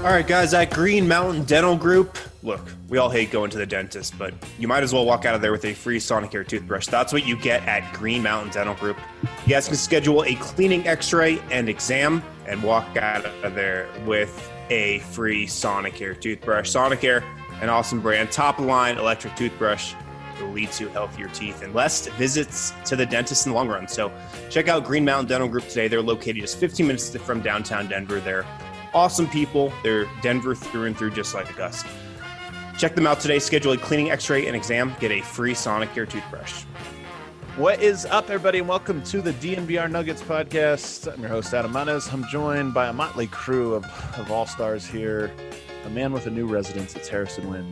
All right, guys, at Green Mountain Dental Group, look, we all hate going to the dentist, but you might as well walk out of there with a free Sonicare toothbrush. That's what you get at Green Mountain Dental Group. You guys can schedule a cleaning x-ray and exam and walk out of there with a free Sonicare toothbrush. Sonicare, an awesome brand, top-of-the-line electric toothbrush will lead to healthier teeth and less visits to the dentist in the long run. So check out Green Mountain Dental Group today. They're located just 15 minutes from downtown Denver. They're awesome people. They're Denver through and through, just like us. Check them out today. Schedule a cleaning, x-ray, and exam. Get a free Sonicare toothbrush. What is up, everybody, and welcome to the DNVR Nuggets podcast. I'm your host, Adam Manes. I'm joined by a motley crew of all-stars here. A man with a new residence. It's Harrison Wind.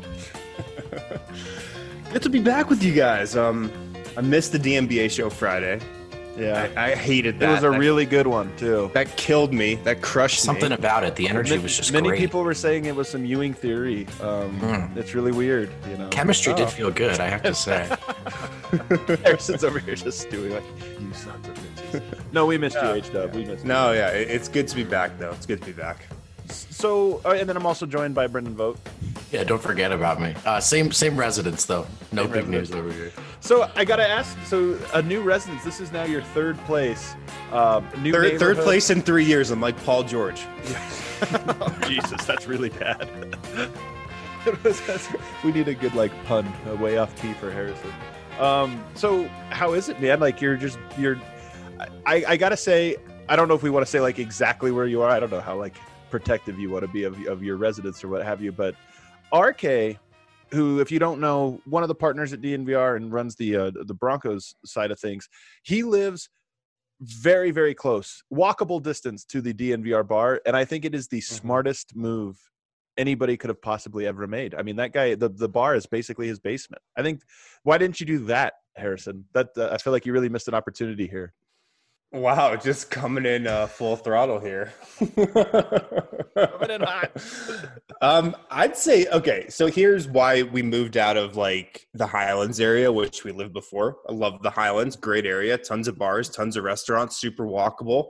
Good to be back with you guys. I missed the DNBA show Friday. Yeah, I hated that. It was a really good one, too. That killed me. That crushed Something me. about it. The energy was just Many great. people were saying it was some Ewing theory. It's really weird, you know. Chemistry did feel good, I have to say. Harrison's over here just doing like, you sons of bitches. No, we missed you, H-Dub. We missed you. No, yeah, it's good to be back, though. It's good to be back. So, and then I'm also joined by Brendan Vogt. Yeah, don't forget about me. Same residence, though. No big news over here. So I gotta ask. So a new residence. This is now your third place. New Third place in 3 years. I'm like Paul George. Oh, Jesus, that's really bad. We need a good pun, way off key for Harrison. So how is it, man? Like you're. I gotta say, I don't know if we want to say exactly where you are. I don't know how protective you want to be of your residence or what have you, but RK, who, if you don't know, one of the partners at DNVR and runs the Broncos side of things, he lives very, very close, walkable distance to the DNVR bar, and I think it is the smartest move anybody could have possibly ever made. I mean, that guy, the bar is basically his basement. I think, why didn't you do that, Harrison? That I feel like you really missed an opportunity here. Wow, just coming in full throttle here. Coming in hot. I'd say, okay, so here's why we moved out of the Highlands area, which we lived before. I love the Highlands, great area, tons of bars, tons of restaurants, super walkable.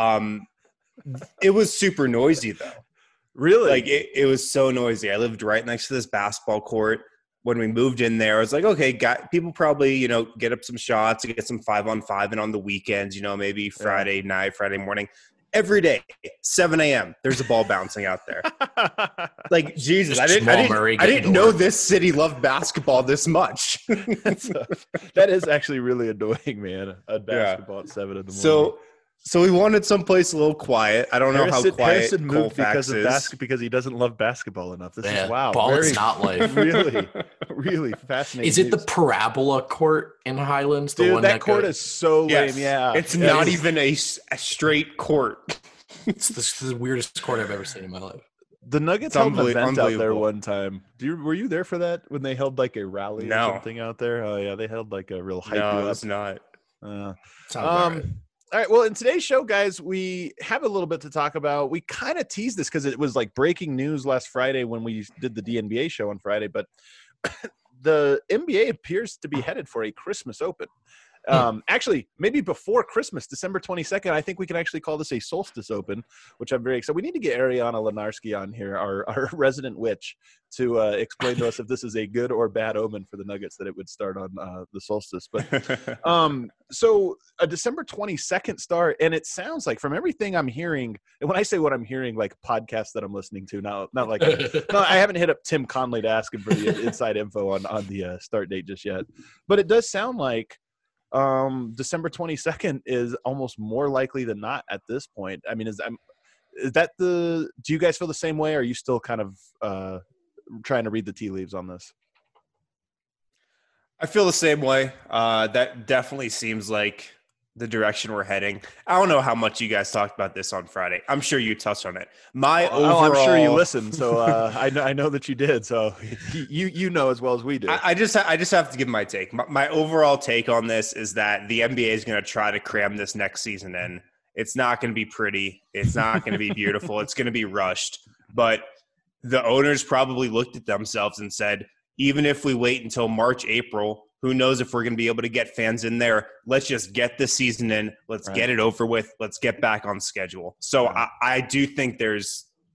It was super noisy though. Really? It was so noisy. I lived right next to this basketball court. When we moved in there, I was like, okay, people probably, get up some shots, get some 5-on-5 and on the weekends, maybe Friday night, Friday morning. Every day, 7 a.m., there's a ball bouncing out there. Jesus, I didn't know this city loved basketball this much. That is actually really annoying, man. A basketball at 7 in the morning. So we wanted someplace a little quiet. I don't know how quiet Harrison moved Colfax is. because he doesn't love basketball enough. This is wow. Ball is not life. Really, really fascinating. Is it the Parabola Court in Highlands? The Dude, one that court is so lame. Yeah, it's not even a straight court. It's the weirdest court I've ever seen in my life. The Nuggets held an event out there one time. Were you there for that when they held a rally or something out there? Oh yeah, they held a real hype. No, it was not. All right. Well, in today's show, guys, we have a little bit to talk about. We kind of teased this because it was breaking news last Friday when we did the DNBA show on Friday, but the NBA appears to be headed for a Christmas Open. Actually, maybe before Christmas, December 22nd, I think we can actually call this a Solstice Open, which I'm very excited. We need to get Ariana Lenarski on here, our resident witch, to explain to us if this is a good or bad omen for the Nuggets that it would start on the solstice. But so a December 22nd start, and it sounds like from everything I'm hearing, and when I say what I'm hearing, podcasts that I'm listening to, not no, I haven't hit up Tim Conley to ask him for the inside info on the start date just yet, but it does sound like December 22nd is almost more likely than not at this point. I mean, is that do you guys feel the same way? Or are you still kind of trying to read the tea leaves on this? I feel the same way. That definitely seems like the direction we're heading. I don't know how much you guys talked about this on Friday. I'm sure you touched on it. I'm sure you listened. So I know that you did. So you know as well as we do. I just have to give my take. My overall take on this is that the NBA is going to try to cram this next season in. It's not going to be pretty. It's not going to be beautiful. It's going to be rushed. But the owners probably looked at themselves and said, even if we wait until March, April, who knows if we're going to be able to get fans in there. Let's just get the season in. Let's get it over with. Let's get back on schedule. So I do think there's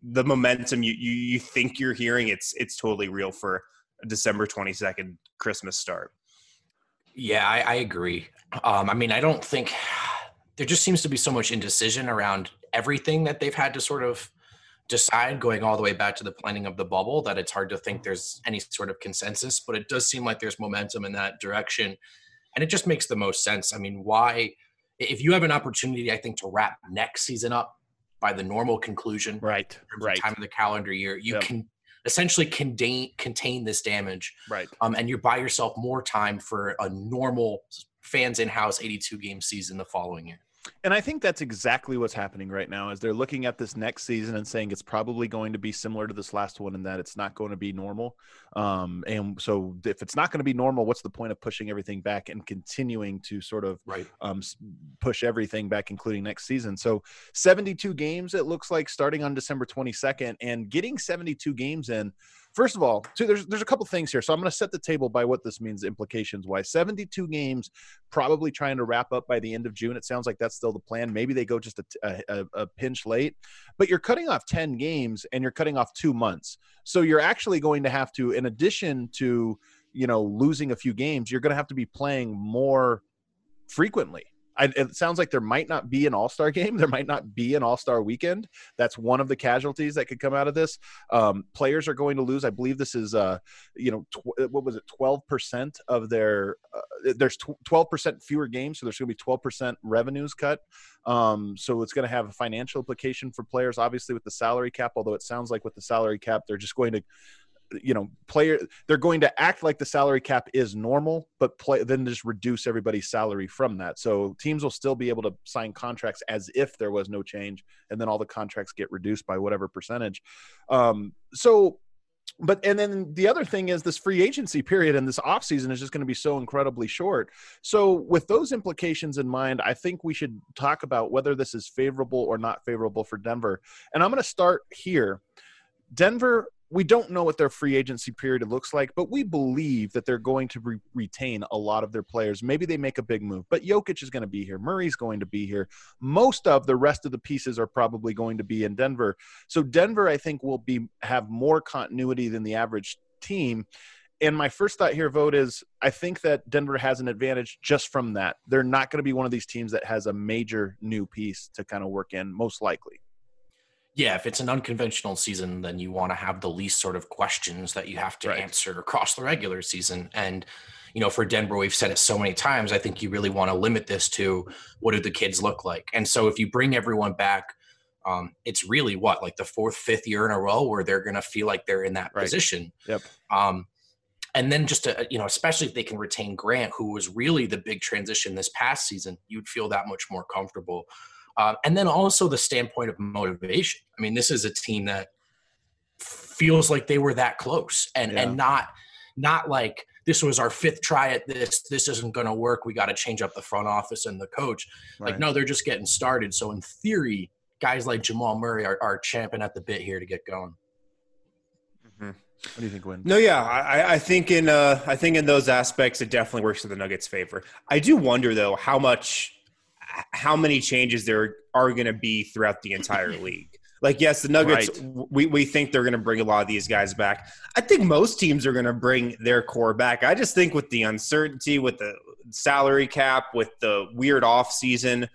the momentum you think you're hearing, it's totally real for a December 22nd Christmas start. Yeah, I agree. I mean, I don't think there just seems to be so much indecision around everything that they've had to sort of decide, going all the way back to the planning of the bubble, that it's hard to think there's any sort of consensus, but it does seem like there's momentum in that direction. And it just makes the most sense. I mean, why, if you have an opportunity, I think, to wrap next season up by the normal conclusion, right, time of the calendar year, you can essentially contain this damage, right? And you buy yourself more time for a normal fans in-house 82 game season the following year. And I think that's exactly what's happening right now, is they're looking at this next season and saying it's probably going to be similar to this last one, and that it's not going to be normal. And so if it's not going to be normal, what's the point of pushing everything back and continuing to sort of push everything back, including next season? So 72 games, it looks like, starting on December 22nd, and getting 72 games in. First of all, there's a couple things here. So I'm going to set the table by what this means implications-wise. 72 games, probably trying to wrap up by the end of June. It sounds like that's still the plan. Maybe they go just a pinch late. But you're cutting off 10 games, and you're cutting off 2 months. So you're actually going to have to, in addition to, losing a few games, you're going to have to be playing more frequently. It sounds like there might not be an all-star game. There might not be an all-star weekend. That's one of the casualties that could come out of this. Players are going to lose. I believe this is, what was it, 12% of their there's 12% fewer games, so there's going to be 12% revenues cut. So it's going to have a financial implication for players, obviously, with the salary cap, although it sounds like with the salary cap, they're just going to they're going to act like the salary cap is normal, but then just reduce everybody's salary from that. So teams will still be able to sign contracts as if there was no change, and then all the contracts get reduced by whatever percentage. And then the other thing is this free agency period and this offseason is just going to be so incredibly short. So with those implications in mind, I think we should talk about whether this is favorable or not favorable for Denver. And I'm going to start here. Denver, we don't know what their free agency period looks like, but we believe that they're going to retain a lot of their players. Maybe they make a big move, but Jokic is going to be here. Murray's going to be here. Most of the rest of the pieces are probably going to be in Denver. So Denver, I think, will have more continuity than the average team. And my first thought here, Vogt, is I think that Denver has an advantage just from that. They're not going to be one of these teams that has a major new piece to kind of work in, most likely. Yeah, if it's an unconventional season, then you want to have the least sort of questions that you have to answer across the regular season. And, for Denver, we've said it so many times, I think you really want to limit this to what do the kids look like. And so if you bring everyone back, it's really like the 4th, 5th year in a row where they're going to feel like they're in that position. Yep. And then just to, especially if they can retain Grant, who was really the big transition this past season, you'd feel that much more comfortable. And then also the standpoint of motivation. I mean, this is a team that feels like they were that close and not like this was our 5th try at this. This isn't going to work. We got to change up the front office and the coach. Right. Like, no, they're just getting started. So in theory, guys like Jamal Murray are champing at the bit here to get going. Mm-hmm. What do you think, Win? No, yeah, I think in those aspects, it definitely works in the Nuggets' favor. I do wonder, though, how many changes there are going to be throughout the entire league. Like, yes, the Nuggets, we think they're going to bring a lot of these guys back. I think most teams are going to bring their core back. I just think with the uncertainty, with the salary cap, with the weird off season,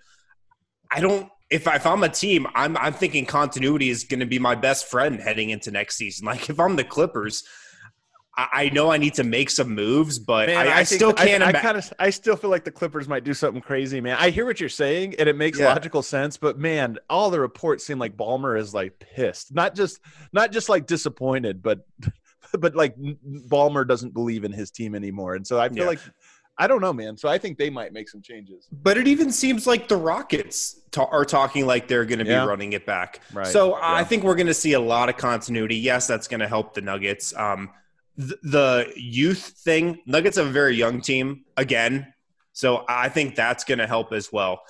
if I'm a team, I'm thinking continuity is going to be my best friend heading into next season. Like, if I'm the Clippers, I know I need to make some moves, but man, I still can't. I still feel like the Clippers might do something crazy, man. I hear what you're saying, and it makes logical sense. But man, all the reports seem like Ballmer is like pissed, not just like disappointed, but like Ballmer doesn't believe in his team anymore. And so I feel like I don't know, man. So I think they might make some changes. But it even seems like the Rockets are talking like they're going to be running it back. Right. So I think we're going to see a lot of continuity. Yes, that's going to help the Nuggets. The youth thing, Nuggets have a very young team again, so I think that's going to help as well.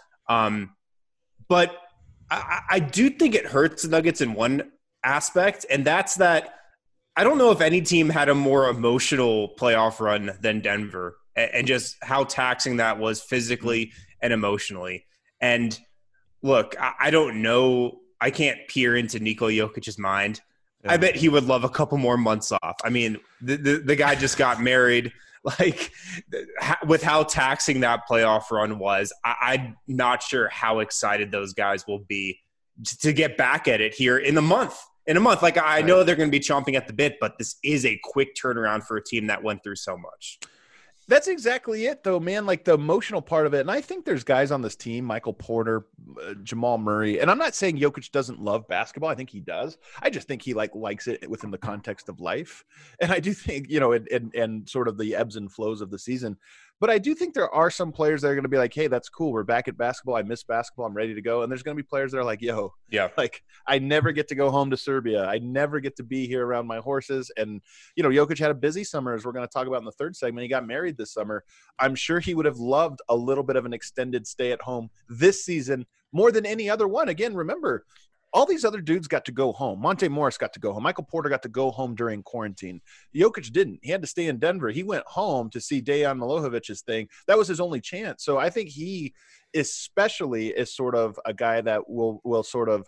But I do think it hurts the Nuggets in one aspect, and that's that I don't know if any team had a more emotional playoff run than Denver, and just how taxing that was physically and emotionally. And look, I don't know I can't peer into Nikola Jokic's mind. Yeah. I bet he would love a couple more months off. I mean, the guy just got married. Like, with how taxing that playoff run was, I'm not sure how excited those guys will be to get back at it here in a month. Like, I know they're going to be chomping at the bit, but this is a quick turnaround for a team that went through so much. That's exactly it, though, man. Like, the emotional part of it. And I think there's guys on this team, Michael Porter, Jamal Murray. And I'm not saying Jokic doesn't love basketball. I think he does. I just think he likes it within the context of life. And I do think, and sort of the ebbs and flows of the season. But I do think there are some players that are going to be like, hey, that's cool. We're back at basketball. I miss basketball. I'm ready to go. And there's going to be players that are like, yo, like, I never get to go home to Serbia. I never get to be here around my horses. And, Jokic had a busy summer, as we're going to talk about in the third segment. He got married this summer. I'm sure he would have loved a little bit of an extended stay at home this season more than any other one. Again, remember, all these other dudes got to go home. Monte Morris got to go home. Michael Porter got to go home during quarantine. Jokic didn't. He had to stay in Denver. He went home to see Dejan Milošević's thing. That was his only chance. So I think he especially is sort of a guy that will sort of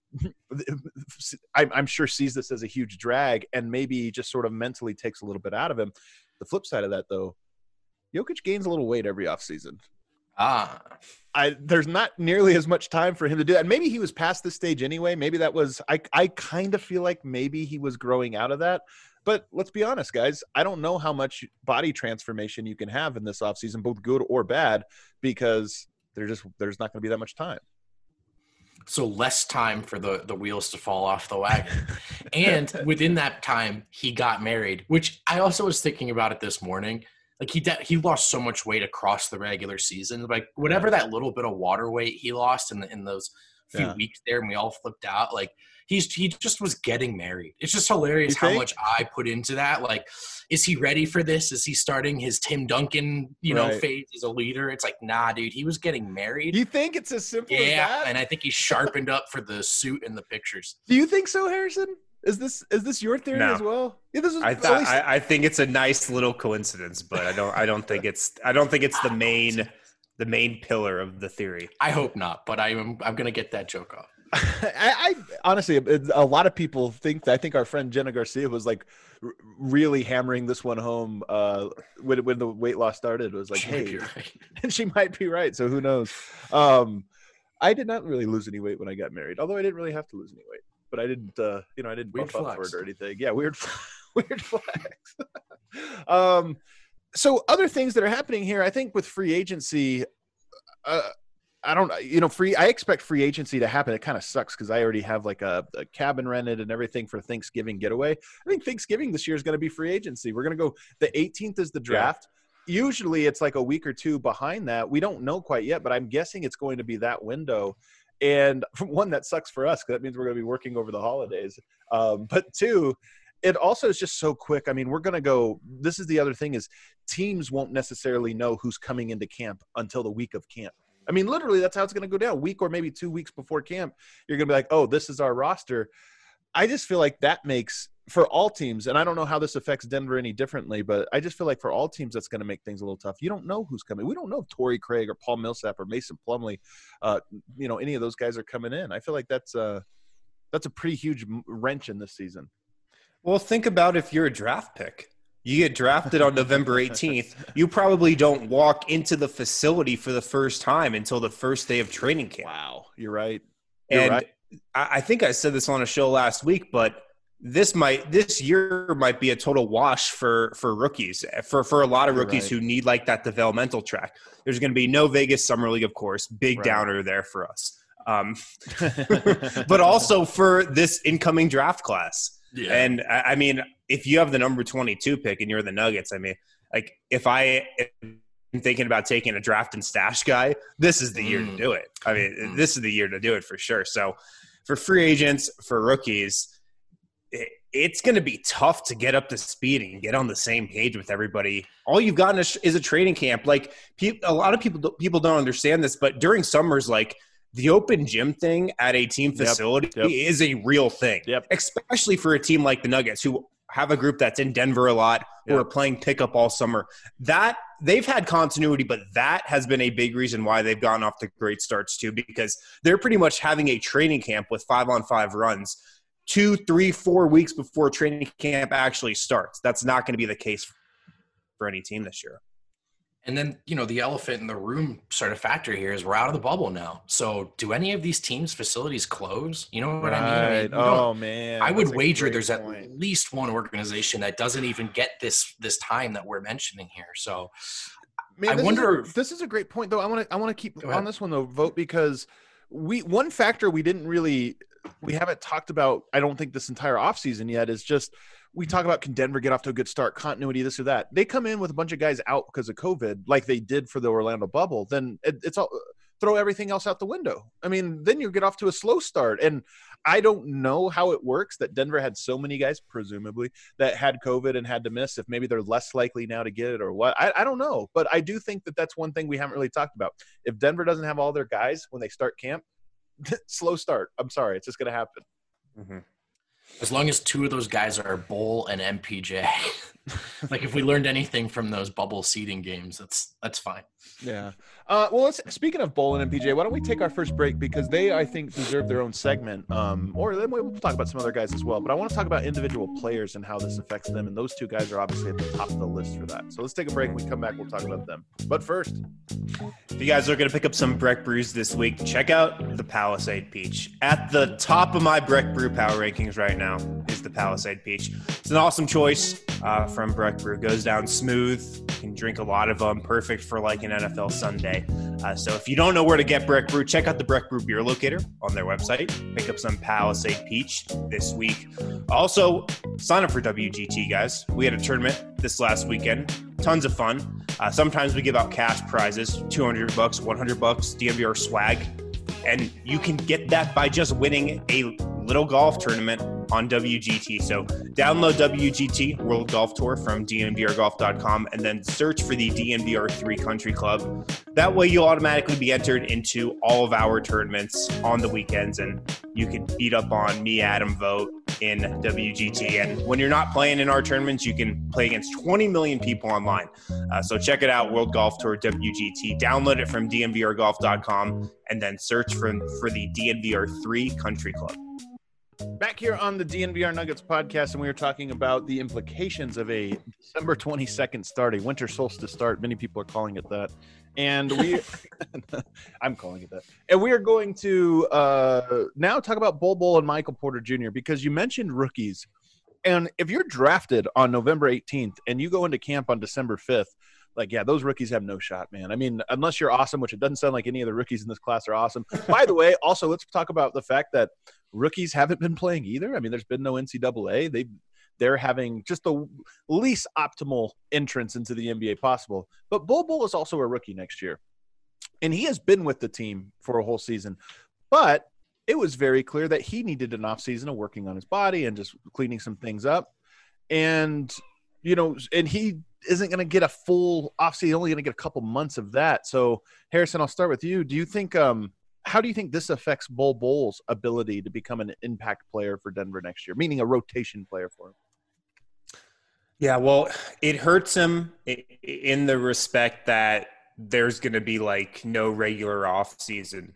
I'm sure sees this as a huge drag and maybe just sort of mentally takes a little bit out of him. The flip side of that, though, Jokic gains a little weight every offseason. There's not nearly as much time for him to do that. And maybe he was past this stage anyway. Maybe that was I kind of feel like maybe he was growing out of that. But let's be honest, guys. I don't know how much body transformation you can have in this offseason, both good or bad, because there's not going to be that much time. So less time for the wheels to fall off the wagon. And within that time, he got married, which I also was thinking about it this morning. Like, he lost so much weight across the regular season. Like, whatever that little bit of water weight he lost in those few weeks there, and we all flipped out. Like, he just was getting married. It's just hilarious how much I put into that. Like, is he ready for this? Is he starting his Tim Duncan, phase as a leader? It's like, nah, dude, he was getting married. You think it's as simple as that? Yeah, and I think he's sharpened up for the suit and the pictures. Do you think so, Harrison? Is this your theory as well? Yeah, I think it's a nice little coincidence, but I don't think it's the main pillar of the theory. I hope not, but I'm gonna get that joke off. I honestly, a lot of people think that. I think our friend Jenna Garcia was like really hammering this one home when the weight loss started. It was like, hey, and she might be right. So who knows? I did not really lose any weight when I got married, although I didn't really have to lose any weight. But I didn't, I didn't buff up for it or anything. Yeah, weird flex. So other things that are happening here, I think with free agency, I expect free agency to happen. It kind of sucks because I already have like a cabin rented and everything for Thanksgiving getaway. I think Thanksgiving this year is going to be free agency. We're going to go, the 18th is the draft. Yeah. Usually it's like a week or two behind that. We don't know quite yet, but I'm guessing it's going to be that window. And one, that sucks for us because that means we're going to be working over the holidays. But two, it also is just so quick. I mean, we're going to go – this is the other thing is teams won't necessarily know who's coming into camp until the week of camp. I mean, literally that's how it's going to go down. A week or maybe 2 weeks before camp, you're going to be like, oh, this is our roster. I just feel like that makes – for all teams, and I don't know how this affects Denver any differently, but I just feel like for all teams that's going to make things a little tough. You don't know who's coming. We don't know if Torrey Craig or Paul Millsap or Mason Plumlee, any of those guys are coming in. I feel like that's a pretty huge wrench in this season. Well, think about if you're a draft pick. You get drafted on November 18th. You probably don't walk into the facility for the first time until the first day of training camp. Wow, you're right. I think I said this on a show last week, but this year might be a total wash for rookies, for a lot of rookies who need like that developmental track. There's going to be no Vegas Summer League, of course, big downer there for us. But also for this incoming draft class. Yeah. And I mean, if you have the number 22 pick and you're the Nuggets, I mean, like if I'm thinking about taking a draft and stash guy, this is the year to do it. I mean, this is the year to do it for sure. So for free agents, for rookies, it's going to be tough to get up to speed and get on the same page with everybody. All you've gotten is a training camp. Like a lot of people don't understand this, but during summers, like the open gym thing at a team facility is a real thing, especially for a team like the Nuggets, who have a group that's in Denver a lot, who are playing pickup all summer. That they've had continuity, but that has been a big reason why they've gotten off to great starts too, because they're pretty much having a training camp with 5-on-5 runs 2, 3, 4 weeks before training camp actually starts. That's not going to be the case for any team this year. And then, the elephant in the room sort of factor here is we're out of the bubble now. So do any of these teams' facilities close? You know what I mean? Oh, man. I would wager there's at least one organization that doesn't even get this time that we're mentioning here. So man, I wonder. This is a great point, though. I want to keep on this one, though, Vogt, because one factor we haven't talked about, I don't think, this entire offseason yet is just – we talk about, can Denver get off to a good start, continuity, this or that. They come in with a bunch of guys out because of COVID, like they did for the Orlando bubble. Then it's all throw everything else out the window. I mean, then you get off to a slow start. And I don't know how it works that Denver had so many guys, presumably, that had COVID and had to miss. If maybe they're less likely now to get it or what. I don't know. But I do think that that's one thing we haven't really talked about. If Denver doesn't have all their guys when they start camp, slow start. I'm sorry. It's just going to happen. Mm-hmm. As long as two of those guys are Bowl and MPJ, like if we learned anything from those bubble seeding games, that's fine. Yeah. Well, speaking of Bowl and MPJ, why don't we take our first break, because they, I think, deserve their own segment. Or then we'll talk about some other guys as well. But I want to talk about individual players and how this affects them. And those two guys are obviously at the top of the list for that. So let's take a break. When we come back, we'll talk about them. But first, if you guys are going to pick up some Breck brews this week, check out the Palisade Peach. At the top of my Breck brew power rankings right now is the Palisade Peach. It's an awesome choice from Breck Brew. Goes down smooth. You can drink a lot of them. Perfect for like an NFL Sunday. So if you don't know where to get Breck Brew, check out the Breck Brew beer locator on their website. Pick up some Palisade Peach this week. Also, sign up for WGT, guys. We had a tournament this last weekend. Tons of fun. Sometimes we give out cash prizes, $200, $100, DNVR swag. And you can get that by just winning a little golf tournament on WGT. So download WGT World Golf Tour from DNVRgolf.com and then search for the DNVR3 Country Club. That way you'll automatically be entered into all of our tournaments on the weekends, and you can beat up on me, Adam, Vogt in WGT. And when you're not playing in our tournaments, you can play against 20 million people online. So check it out, World Golf Tour WGT. Download it from DNVRgolf.com and then search for the DNVR3 Country Club. Back here on the DNVR Nuggets podcast, and we were talking about the implications of a December 22nd start, a winter solstice start. Many people are calling it that. And I'm calling it that. And we are going to now talk about Bol Bol and Michael Porter Jr., because you mentioned rookies. And if you're drafted on November 18th and you go into camp on December 5th, those rookies have no shot, man. I mean, unless you're awesome, which it doesn't sound like any of the rookies in this class are awesome. By the way, also, let's talk about the fact that rookies haven't been playing either. I mean, there's been no NCAA. They're having just the least optimal entrance into the NBA possible. But Bol Bol is also a rookie next year. And he has been with the team for a whole season. But it was very clear that he needed an offseason of working on his body and just cleaning some things up. And, and he isn't going to get a full offseason, only going to get a couple months of that. So, Harrison, I'll start with you. Do you think how do you think this affects Bol Bol's ability to become an impact player for Denver next year, meaning a rotation player for him? Yeah, well, it hurts him in the respect that there's going to be no regular offseason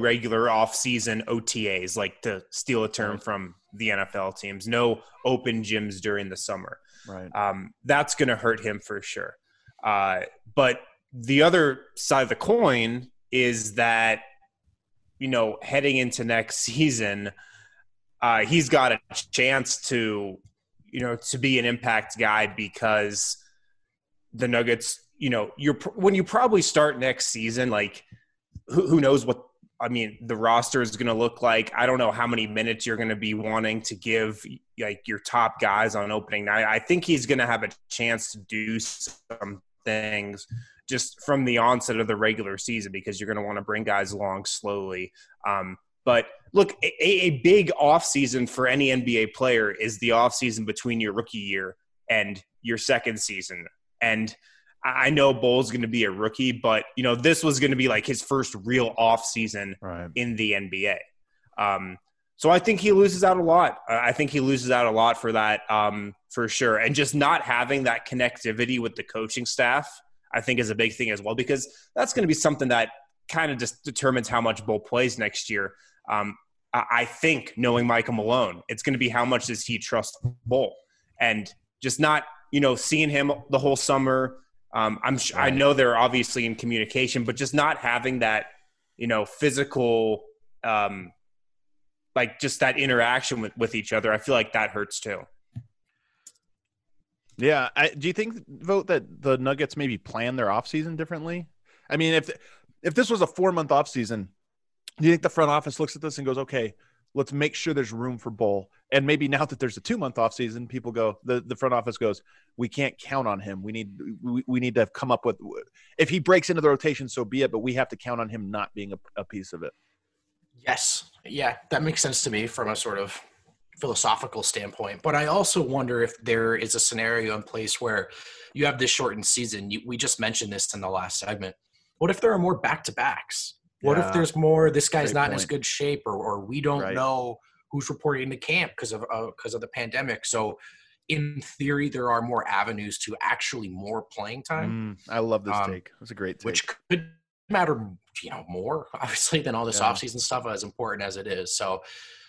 OTAs, like to steal a term from the NFL teams, no open gyms during the summer. Right. That's going to hurt him for sure. But the other side of the coin is that, heading into next season, he's got a chance to be an impact guy, because the Nuggets, when you probably start next season, who knows what, the roster is going to look like. I don't know how many minutes you're going to be wanting to give your top guys on opening night. I think he's going to have a chance to do some things just from the onset of the regular season, because you're going to want to bring guys along slowly. But look, a big offseason for any NBA player is the offseason between your rookie year and your second season. And I know Bol's going to be a rookie, but, this was going to be his first real offseason in the NBA. So I think he loses out a lot. I think he loses out a lot for that, for sure. And just not having that connectivity with the coaching staff, I think, is a big thing as well, because that's going to be something that kind of just determines how much Bull plays next year. I think, knowing Michael Malone, it's going to be how much does he trust Bull, and just not, seeing him the whole summer. I know they're obviously in communication, but just not having that, physical, like just that interaction with each other. I feel like that hurts too. Yeah. Do you think, Vote, that the Nuggets maybe plan their offseason differently? I mean, if this was a 4-month offseason, do you think the front office looks at this and goes, okay, let's make sure there's room for Bull? And maybe now that there's a 2-month offseason, people go, the front office goes, we can't count on him. We need to come up with, if he breaks into the rotation, so be it, but we have to count on him not being a piece of it. Yes. Yeah, that makes sense to me from a sort of philosophical standpoint. But I also wonder if there is a scenario in place where you have this shortened season. We just mentioned this in the last segment. What if there are more back-to-backs? What if there's more, this guy's not in as good shape, or we don't know who's reporting to camp because of the pandemic. So in theory, there are more avenues to actually more playing time. I love this take. That's a great take. Which could matter, more obviously than all this offseason stuff, as important as it is. So,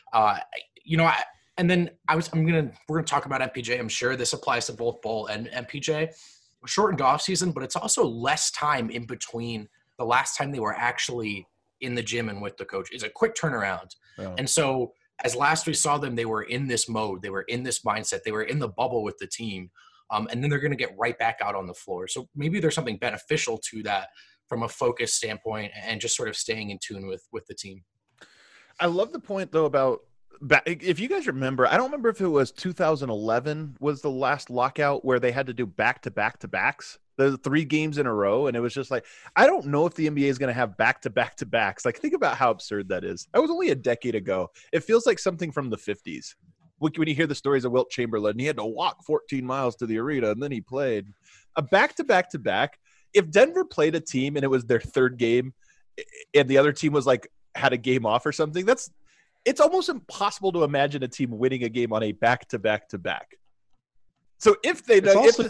we're going to talk about MPJ. I'm sure this applies to both Bull and MPJ. Shortened offseason, but it's also less time in between the last time they were actually in the gym and with the coach. It's a quick turnaround. Yeah. And so as last we saw them, they were in this mode. They were in this mindset. They were in the bubble with the team. And then they're going to get right back out on the floor. So maybe there's something beneficial to that from a focus standpoint and just sort of staying in tune with the team. I love the point, though, about if you guys remember, I don't remember if it was 2011 was the last lockout where they had to do back-to-back-to-backs, the 3 games in a row. And it was just like, I don't know if the NBA is going to have back-to-back-to-backs. Like, think about how absurd that is. That was only a decade ago. It feels like something from the 50s. When you hear the stories of Wilt Chamberlain, he had to walk 14 miles to the arena and then he played. A back-to-back-to-back, if Denver played a team and it was their 3rd game and the other team was like, had a game off or something, it's almost impossible to imagine a team winning a game on a back-to-back-to-back. So if they,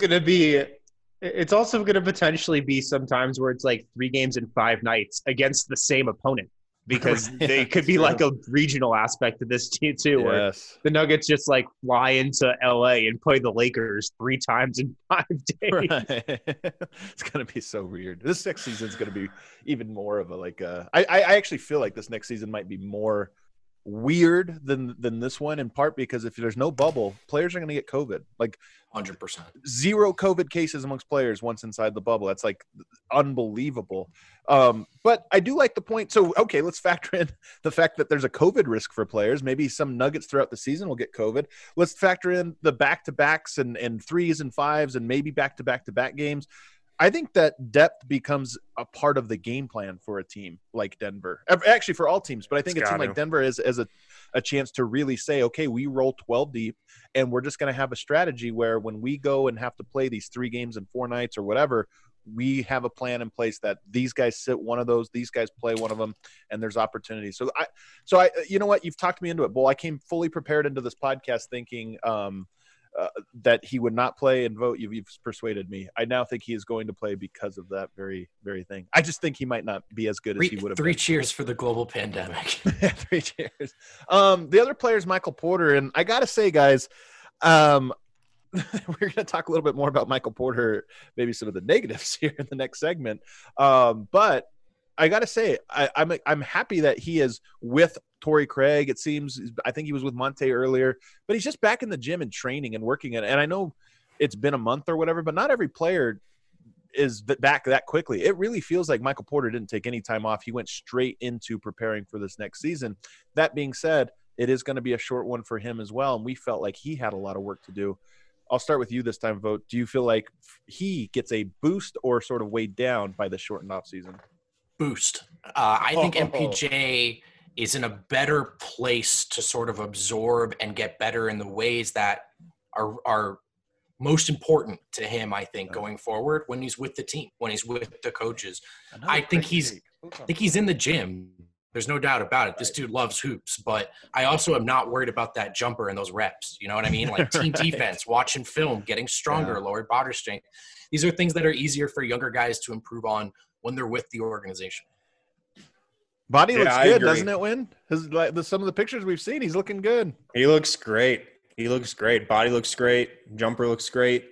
it's also going to potentially be sometimes where it's like 3 games in 5 nights against the same opponent, because they could be like a regional aspect of this team too, where the Nuggets just like fly into LA and play the Lakers 3 times in 5 days. Right. It's going to be so weird. This next season is going to be even more of I actually feel like this next season might be more weird than this one, in part because if there's no bubble, players are going to get COVID. Like 100%. 0 COVID cases amongst players once inside the bubble. That's like unbelievable. But I do like the point. So, okay, let's factor in the fact that there's a COVID risk for players. Maybe some Nuggets throughout the season will get COVID. Let's factor in the back-to-backs and 3s and 5s and maybe back-to-back-to-back games. I think that depth becomes a part of the game plan for a team like Denver. Actually, for all teams, but I think a team like Denver is a chance to really say, okay, we roll 12 deep, and we're just going to have a strategy where when we go and have to play these 3 games in 4 nights or whatever, we have a plan in place that these guys sit one of those, these guys play one of them, and there's opportunity. So I, you know what? You've talked me into it, Bull. I came fully prepared into this podcast thinking that he would not play, and Vote, you've persuaded me. I now think he is going to play because of that very, very thing. I just think he might not be as good as he would have been. 3 cheers for the global pandemic. 3 cheers. The other player is Michael Porter, and I got to say, guys, we're going to talk a little bit more about Michael Porter, maybe some of the negatives here in the next segment. But I got to say, I'm happy that he is with Torrey Craig. It seems, I think he was with Monte earlier, but he's just back in the gym and training and working it. And I know it's been a month or whatever, but not every player is back that quickly. It really feels like Michael Porter didn't take any time off. He went straight into preparing for this next season. That being said, it is going to be a short one for him as well. And we felt like he had a lot of work to do. I'll start with you this time, Vote. Do you feel like he gets a boost or sort of weighed down by the shortened off season? Boost. I think MPJ is in a better place to sort of absorb and get better in the ways that are most important to him, I think, going forward when he's with the team, when he's with the coaches. I think he's in the gym There's no doubt about it. This dude loves hoops, but I also am not worried about that jumper and those reps. You know what I mean? Like team defense, watching film, getting stronger, lower body strength. These are things that are easier for younger guys to improve on when they're with the organization. Body looks good, doesn't it, Win? Some of the pictures we've seen, he's looking good. He looks great. Body looks great. Jumper looks great.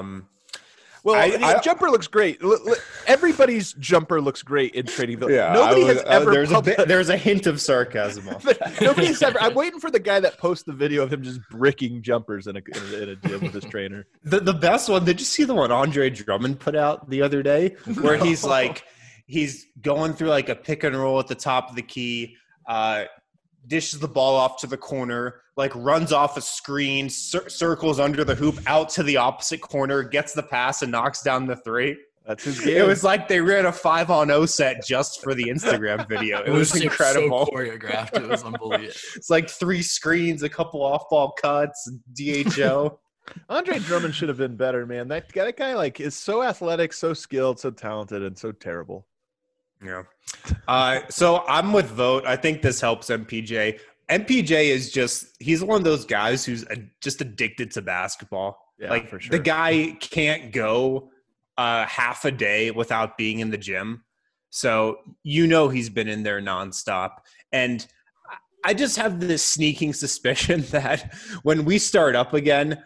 Jumper looks great. Everybody's jumper looks great in Trading Village. Yeah, Nobody has ever. There's a hint of sarcasm. Nobody's ever. I'm waiting for the guy that posts the video of him just bricking jumpers in a gym with his trainer. The best one. Did you see the one Andre Drummond put out the other day, where he's like, he's going through like a pick and roll at the top of the key, dishes the ball off to the corner, like runs off a screen, circles under the hoop, out to the opposite corner, gets the pass, and knocks down the three. That's his game. It was like they ran a 5-on-0 set just for the Instagram video. It was incredible. So choreographed. It was unbelievable. It's like 3 screens, a couple off-ball cuts, DHO. Andre Drummond should have been better, man. That guy like is so athletic, so skilled, so talented, and so terrible. Yeah. So I'm with Vogt. I think this helps MPJ. MPJ is he's one of those guys who's just addicted to basketball. Yeah, like for sure. The guy can't go half a day without being in the gym. So, he's been in there nonstop. And I just have this sneaking suspicion that when we start up again,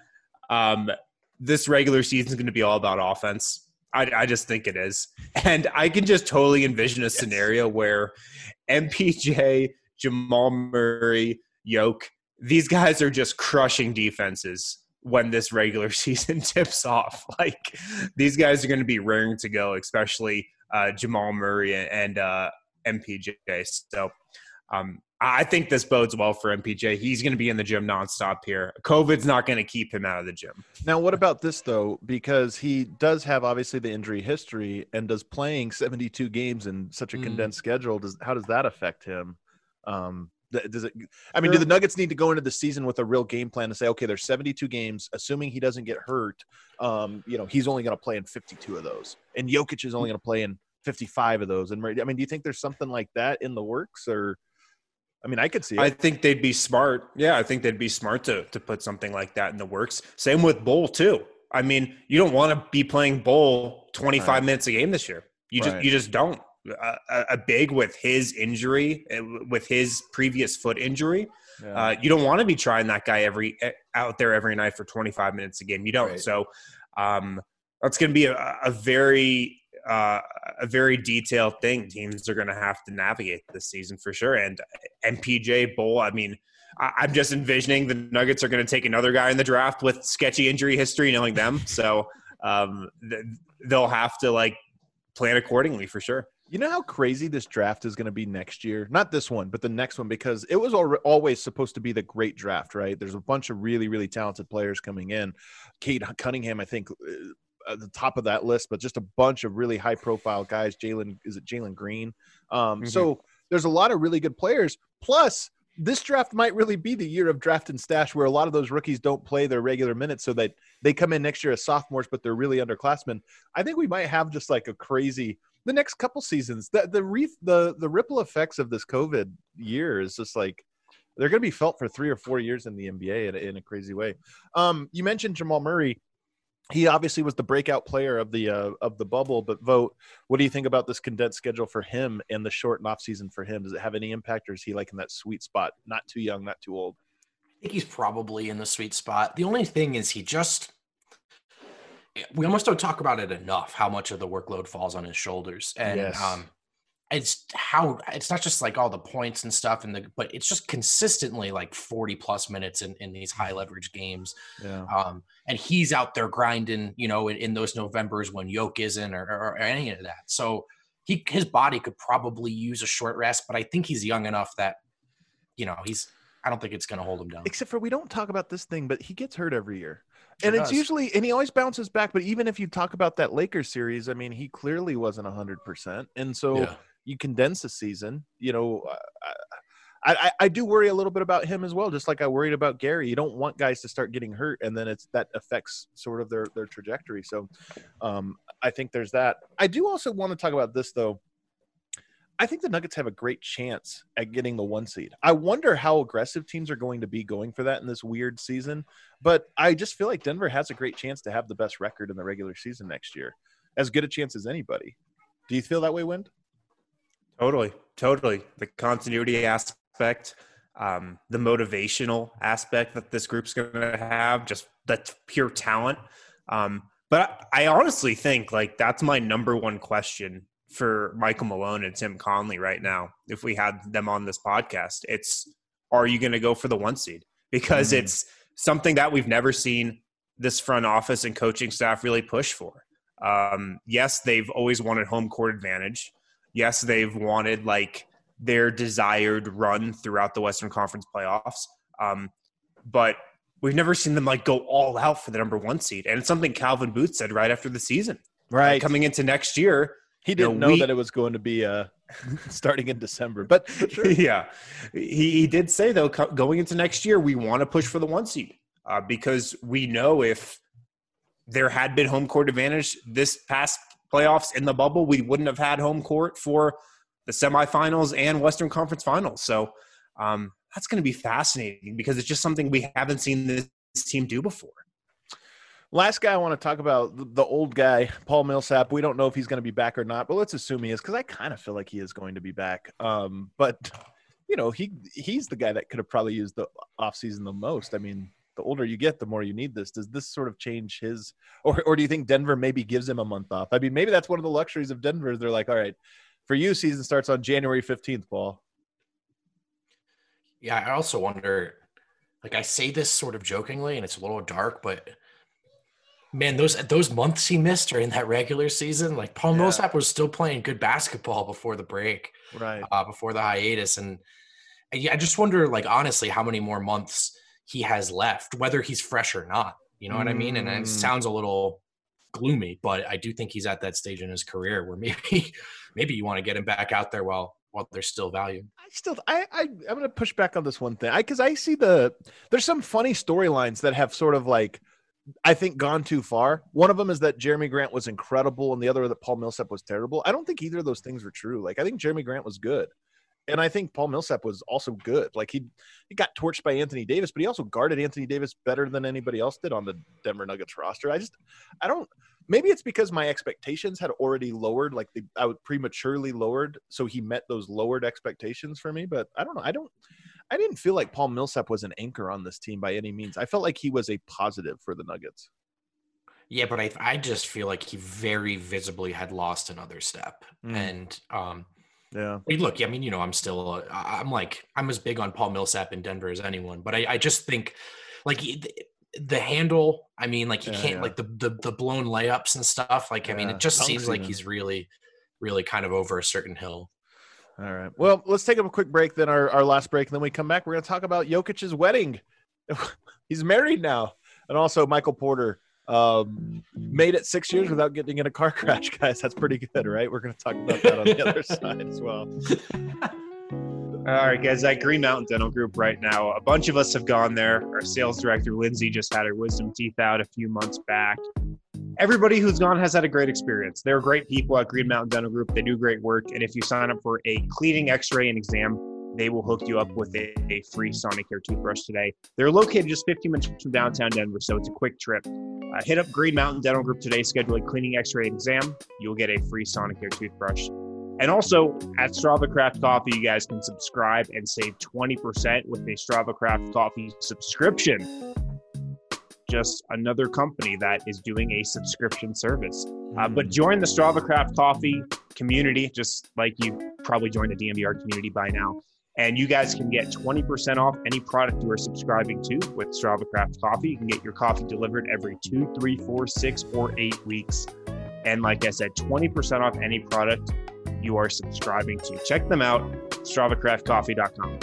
this regular season is going to be all about offense. I just think it is. And I can just totally envision a scenario where MPJ, Jamal Murray, Yoke, these guys are just crushing defenses when this regular season tips off. Like, these guys are going to be raring to go, especially Jamal Murray and MPJ. So I think this bodes well for MPJ. He's going to be in the gym nonstop here. COVID's not going to keep him out of the gym. Now, what about this, though? Because he does have, obviously, the injury history, and does playing 72 games in such a condensed schedule, how does that affect him? Does it? I mean, do the Nuggets need to go into the season with a real game plan to say, okay, there's 72 games, assuming he doesn't get hurt, he's only going to play in 52 of those, and Jokic is only going to play in 55 of those. And I mean, do you think there's something like that in the works, or? I mean, I could see it. I think they'd be smart. Yeah, I think they'd be smart to put something like that in the works. Same with Bull, too. I mean, you don't want to be playing Bull 25 minutes a game this year. You just don't. A big with his injury, with his previous foot injury, you don't want to be trying that guy out there every night for 25 minutes a game. You don't. Right. So that's going to be a very detailed thing teams are going to have to navigate this season for sure. And MPJ, Bull, I mean, I'm just envisioning the Nuggets are going to take another guy in the draft with sketchy injury history, knowing them. So they'll have to plan accordingly for sure. You know how crazy this draft is going to be next year? Not this one, but the next one, because it was always supposed to be the great draft, right? There's a bunch of really, really talented players coming in. Cade Cunningham, I think, at the top of that list, but just a bunch of really high-profile guys. Jalen Green? So there's a lot of really good players. Plus, this draft might really be the year of draft and stash, where a lot of those rookies don't play their regular minutes, so that they come in next year as sophomores, but they're really underclassmen. I think we might have just like a crazy – the next couple seasons. The ripple effects of this COVID year is just like they're going to be felt for 3 or 4 years in the NBA in a crazy way. You mentioned Jamal Murray. He obviously was the breakout player of the bubble, but Vogt, what do you think about this condensed schedule for him and the short off season for him? Does it have any impact, or is he like in that sweet spot? Not too young, not too old. I think he's probably in the sweet spot. The only thing is we almost don't talk about it enough, how much of the workload falls on his shoulders. And it's not just like all the points and stuff, but it's just consistently like 40 plus minutes in these high leverage games. Yeah. And he's out there grinding, in those Novembers when Yoke isn't or any of that. So his body could probably use a short rest, but I think he's young enough that, I don't think it's going to hold him down. Except for we don't talk about this thing, but he gets hurt every year. And it's usually, and he always bounces back. But even if you talk about that Lakers series, I mean, he clearly wasn't 100%. And so you condense the season, I do worry a little bit about him as well, just like I worried about Gary. You don't want guys to start getting hurt, and then that affects sort of their trajectory. So I think there's that. I do also want to talk about this, though. I think the Nuggets have a great chance at getting the 1 seed. I wonder how aggressive teams are going to be going for that in this weird season, but I just feel like Denver has a great chance to have the best record in the regular season next year. As good a chance as anybody. Do you feel that way, Wind? Totally. The continuity aspect, the motivational aspect that this group's going to have, just that's pure talent. But I honestly think like that's my number one question for Michael Malone and Tim Conley right now. If we had them on this podcast, it's, are you going to go for the 1 seed? Because it's something that we've never seen this front office and coaching staff really push for. Yes, they've always wanted home court advantage. Yes, they've wanted like their desired run throughout the Western Conference playoffs. But we've never seen them like go all out for the number 1 seed. And it's something Calvin Booth said right after the season. Right. Coming into next year. He didn't know that it was going to be starting in December. But sure. Yeah. He did say, though, going into next year, we want to push for the 1 seed because we know if there had been home court advantage this past playoffs in the bubble, we wouldn't have had home court for the semifinals and Western Conference finals. So that's going to be fascinating because it's just something we haven't seen this team do before. Last guy I want to talk about, the old guy, Paul Millsap. We don't know if he's going to be back or not, but let's assume he is because I kind of feel like he is going to be back. But, you know, he's the guy that could have probably used the offseason the most. I mean, the older you get, the more you need this. Does this sort of change his – or do you think Denver maybe gives him a month off? I mean, maybe that's one of the luxuries of Denver. They're like, all right, for you, season starts on January 15th, Paul. Yeah, I also wonder – like I say this sort of jokingly, and it's a little dark, but – man, those months he missed during that regular season, like Paul Millsap was still playing good basketball before the break, right? Before the hiatus, and I just wonder, like honestly, how many more months he has left, whether he's fresh or not. You know what I mean? And it sounds a little gloomy, but I do think he's at that stage in his career where maybe you want to get him back out there while there's still value. I'm going to push back on this one thing because I see there's some funny storylines that have sort of like, I think, gone too far. One of them is that Jeremy Grant was incredible, and the other that Paul Millsap was terrible. I don't think either of those things were true. Like, I think Jeremy Grant was good, and I think Paul Millsap was also good. Like, he got torched by Anthony Davis, but he also guarded Anthony Davis better than anybody else did on the Denver Nuggets roster. I don't. Maybe it's because my expectations had already lowered. Like, I would prematurely lowered, so he met those lowered expectations for me. But I don't know. I didn't feel like Paul Millsap was an anchor on this team by any means. I felt like he was a positive for the Nuggets. Yeah, but I just feel like he very visibly had lost another step. And yeah, look, I mean, you know, I'm as big on Paul Millsap in Denver as anyone, but I just think like the handle, I mean, like he can't like the blown layups and stuff. Like, I mean, it just seems like he's really, really kind of over a certain hill. All right. Well, let's take a quick break, then our last break, and then we come back. We're going to talk about Jokic's wedding. He's married now. And also Michael Porter made it 6 years without getting in a car crash, guys. That's pretty good, right? We're going to talk about that on the other side as well. All right, guys, at Green Mountain Dental Group right now, a bunch of us have gone there. Our sales director, Lindsay, just had her wisdom teeth out a few months back. Everybody who's gone has had a great experience. They're great people at Green Mountain Dental Group. They do great work. And if you sign up for a cleaning, x-ray, and exam, they will hook you up with a free Sonicare toothbrush today. They're located just 15 minutes from downtown Denver, so it's a quick trip. Hit up Green Mountain Dental Group today, schedule a cleaning, x-ray, and exam. You'll get a free Sonicare toothbrush. And also, at Strava Craft Coffee, you guys can subscribe and save 20% with a Strava Craft Coffee subscription. Just another company that is doing a subscription service. But join the Strava Craft Coffee community, just like you probably joined the DNVR community by now. And you guys can get 20% off any product you are subscribing to with Strava Craft Coffee. You can get your coffee delivered every 2, 3, 4, 6, or 8 weeks. And like I said, 20% off any product you are subscribing to. Check them out, StravaCraftCoffee.com.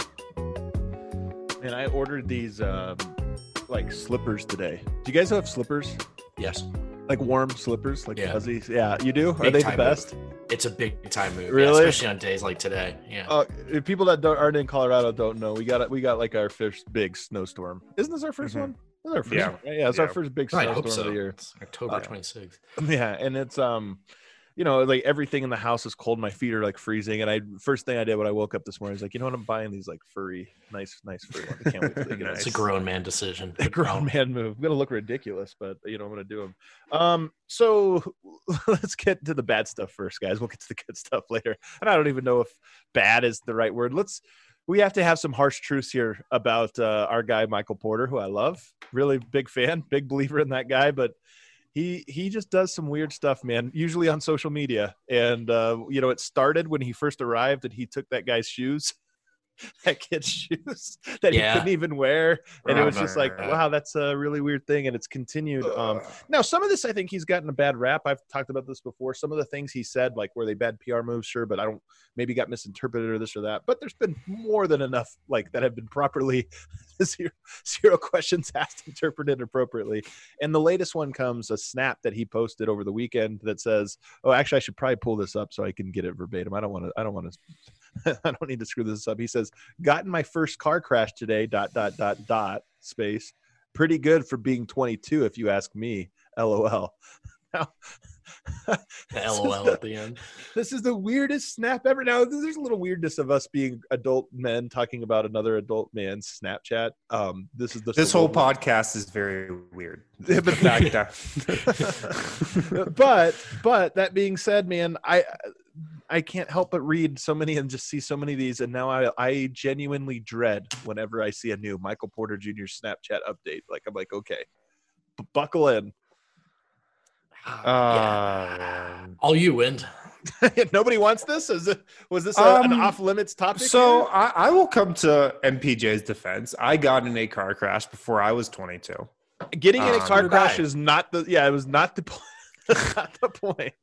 And I ordered these like slippers today. Do you guys have slippers? Yes. Like warm slippers, like fuzzies? Yeah, you do? Are they the best? Move. It's a big time move. Really? Yeah, especially on days like today. Yeah. People that aren't in Colorado don't know. We got like our first big snowstorm. Isn't this our first one? This is our first one. Yeah, it's our first big snowstorm of the year. It's October 26th. Yeah, and it's like everything in the house is cold. My feet are like freezing. And first thing I did when I woke up this morning was like, you know what? I'm buying these like furry, nice furry ones. I can't wait till they get It's a grown man decision. A grown man move. I'm gonna look ridiculous, but I'm gonna do them. So let's get to the bad stuff first, guys. We'll get to the good stuff later. And I don't even know if bad is the right word. We have to have some harsh truths here about our guy Michael Porter, who I love. Really big fan, big believer in that guy, but he just does some weird stuff, man, usually on social media. And it started when he first arrived and he took that guy's shoes. That kid's shoes that he couldn't even wear, and it was just like, wow, that's a really weird thing. And it's continued. Now some of this, I think he's gotten a bad rap. I've talked about this before. Some of the things he said, like, were they bad PR moves? Sure, but I don't, maybe got misinterpreted or this or that. But there's been more than enough like that have been properly zero questions asked, interpreted appropriately. And the latest one comes a snap that he posted over the weekend that says, oh, actually I should probably pull this up so I can get it verbatim. I don't want to I don't need to screw this up. He says, got in my first car crash today, ... space. Pretty good for being 22, if you ask me. LOL. Now, the LOL at the end. This is the weirdest snap ever. Now, there's a little weirdness of us being adult men talking about another adult man's Snapchat. This whole podcast is very weird. But that being said, man, I can't help but read so many and just see so many of these, and now I genuinely dread whenever I see a new Michael Porter Jr. Snapchat update. Like, I'm like, okay, buckle in. All you, Wind. Nobody wants this? Was this an off-limits topic? So I will come to MPJ's defense. I got in a car crash before I was 22. Getting in a car crash is not the – it was not the not the point.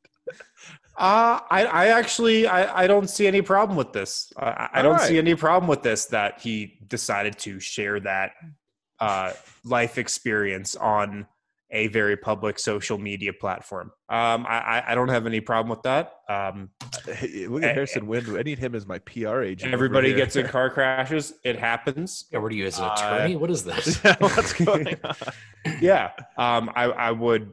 I actually don't see any problem with this. I don't see any problem with this that he decided to share that life experience on a very public social media platform. I don't have any problem with that. Hey, look at Harrison Wind. I need him as my PR agent. Everybody gets in car crashes. It happens. Yeah, what are you, as an attorney? What is this? What's going on? Yeah. I would,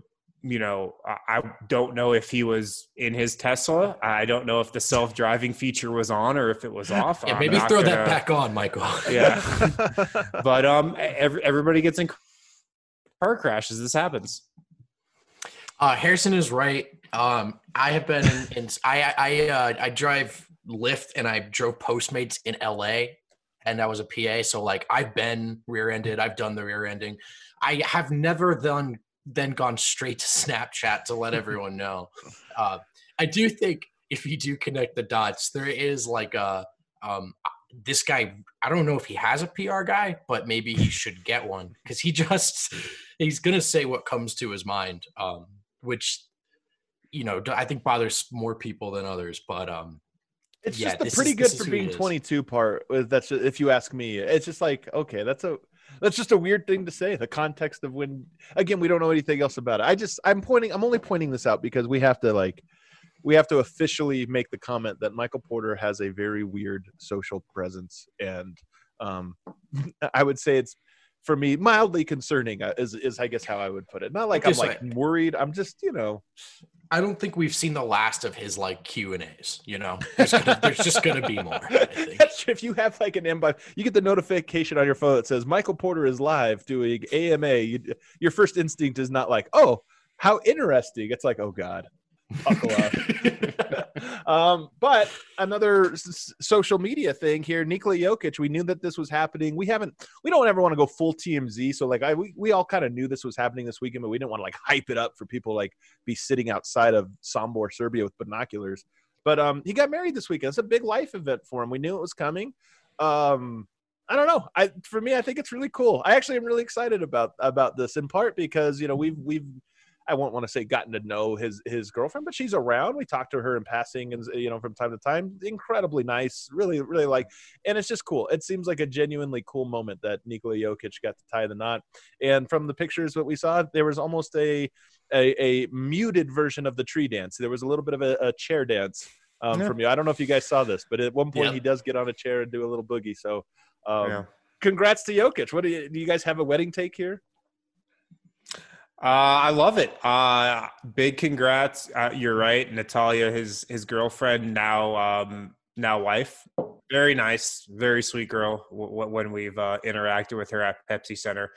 I don't know if he was in his Tesla. I don't know if the self-driving feature was on or if it was off. Yeah, maybe throw that back on, Michael. Yeah. But everybody gets in car crashes. This happens. Harrison is right. I have been I drive Lyft and I drove Postmates in LA, and I was a PA. So like I've been rear-ended. I've done the rear-ending. I have never then gone straight to Snapchat to let everyone know. I do think if you do connect the dots, there is like this guy, I don't know if he has a PR guy, but maybe he should get one, because he's going to say what comes to his mind, which, I think bothers more people than others. But it's just the pretty good for being 22 part. That's just, if you ask me, it's just like, okay, that's just a weird thing to say. The context of when, again, we don't know anything else about it. I'm only pointing this out because we have to officially make the comment that Michael Porter has a very weird social presence. And I would say it's, for me, mildly concerning is I guess how I would put it. Not like I'm like worried. I'm just, I don't think we've seen the last of his like Q&As, there's just going to be more. I think. That's true. If you have like an inbox, you get the notification on your phone that says Michael Porter is live doing AMA. Your first instinct is not like, oh, how interesting. It's like, oh God. Buckle up. But another social media thing here, Nikola Jokic, we knew that this was happening. We don't ever want to go full TMZ. So like we all kind of knew this was happening this weekend, but we didn't want to like hype it up for people like be sitting outside of Sombor, Serbia with binoculars. But he got married this weekend. It's a big life event for him. We knew it was coming. I don't know. For me, I think it's really cool. I actually am really excited about this, in part because, we've I won't want to say gotten to know his girlfriend, but she's around. We talked to her in passing and, from time to time. Incredibly nice, really, really and it's just cool. It seems like a genuinely cool moment that Nikola Jokic got to tie the knot. And from the pictures that we saw, there was almost a muted version of the tree dance. There was a little bit of a chair dance from you. I don't know if you guys saw this, but at one point he does get on a chair and do a little boogie. So congrats to Jokic. Do you guys have a wedding take here? I love it. Big congrats. You're right. Natalia, his girlfriend, now wife. Very nice, very sweet girl when we've interacted with her at Pepsi Center.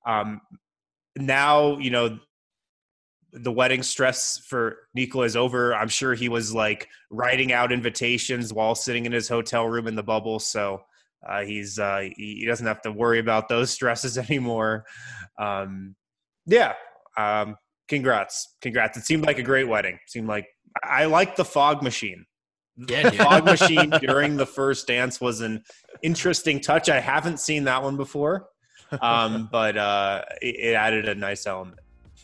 Now, the wedding stress for Nikola is over. I'm sure he was like writing out invitations while sitting in his hotel room in the bubble. So he doesn't have to worry about those stresses anymore. Congrats. It seemed like a great wedding. I like the fog machine. Yeah, the fog machine during the first dance was an interesting touch. I haven't seen that one before, but it added a nice element.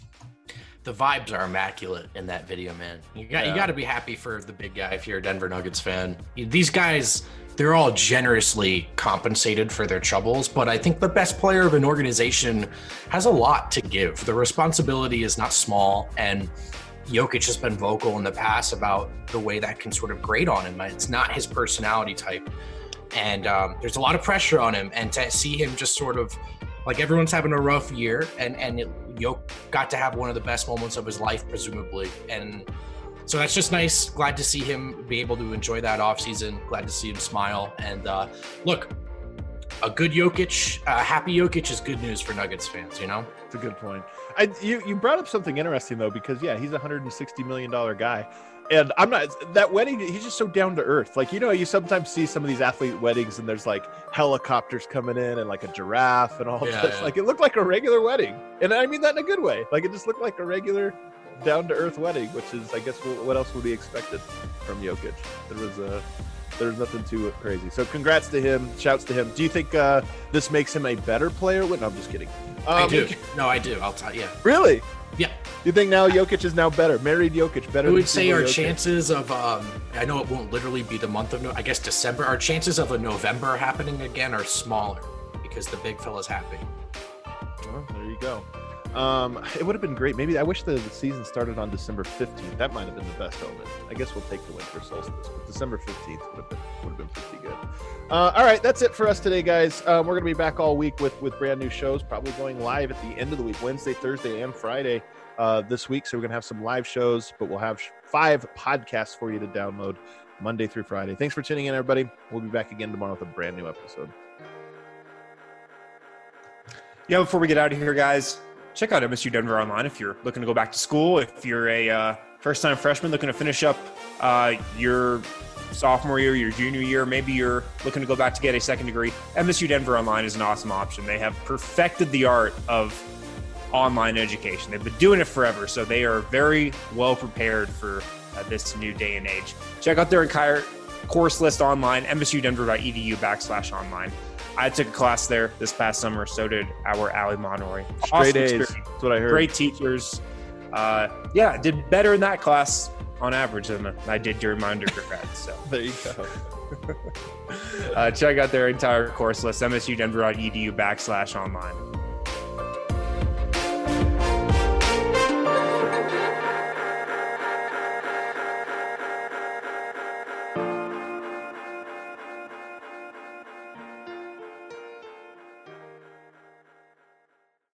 The vibes are immaculate in that video, man. You got to be happy for the big guy if you're a Denver Nuggets fan. These guys, they're all generously compensated for their troubles, but I think the best player of an organization has a lot to give. The responsibility is not small, and Jokic has been vocal in the past about the way that can sort of grate on him. It's not his personality type, and there's a lot of pressure on him, and to see him just sort of like everyone's having a rough year, and Jokic got to have one of the best moments of his life, presumably. And so that's just nice. Glad to see him be able to enjoy that offseason. Glad to see him smile. And look, a good Jokic, happy Jokic is good news for Nuggets fans, It's a good point. You brought up something interesting, though, because, he's a $160 million guy. And I'm not that wedding. He's just so down to earth. Like, you sometimes see some of these athlete weddings and there's like helicopters coming in and like a giraffe and all this. Yeah. Like, it looked like a regular wedding. And I mean that in a good way. Like, it just looked like a regular down to earth wedding, which is, I guess, what else would be expected from Jokic? There was nothing too crazy. So congrats to him. Shouts to him. Do you think this makes him a better player? No, I'm just kidding. I do. No, I do. I'll tell you. Really? Yeah. You think now Jokic is now better? Married Jokic better? We would say our chances of, I know it won't literally be the month of, I guess December. Our chances of a November happening again are smaller because the big fella's happy. Well, there you go. It would have been great. Maybe I wish the season started on December 15th. That might have been the best omen. I guess we'll take the winter solstice, but December 15th would have been pretty good. All right, that's it for us today, guys. We're going to be back all week with brand new shows, probably going live at the end of the week, Wednesday, Thursday, and Friday this week. So we're going to have some live shows, but we'll have 5 podcasts for you to download Monday through Friday. Thanks for tuning in, everybody. We'll be back again tomorrow with a brand new episode. Yeah, before we get out of here, guys, check out MSU Denver online if you're looking to go back to school. If you're a first-time freshman looking to finish up your sophomore year, your junior year, maybe you're looking to go back to get a second degree, MSU Denver online is an awesome option. They have perfected the art of online education. They've been doing it forever, so they are very well prepared for this new day and age. Check out their entire course list online, msudenver.edu/online. I took a class there this past summer. So did our Ali Monori. Straight A's. That's what I heard. Great teachers. Did better in that class on average than I did during my undergrad. So there you go. Check out their entire course list, msudenver.edu/online.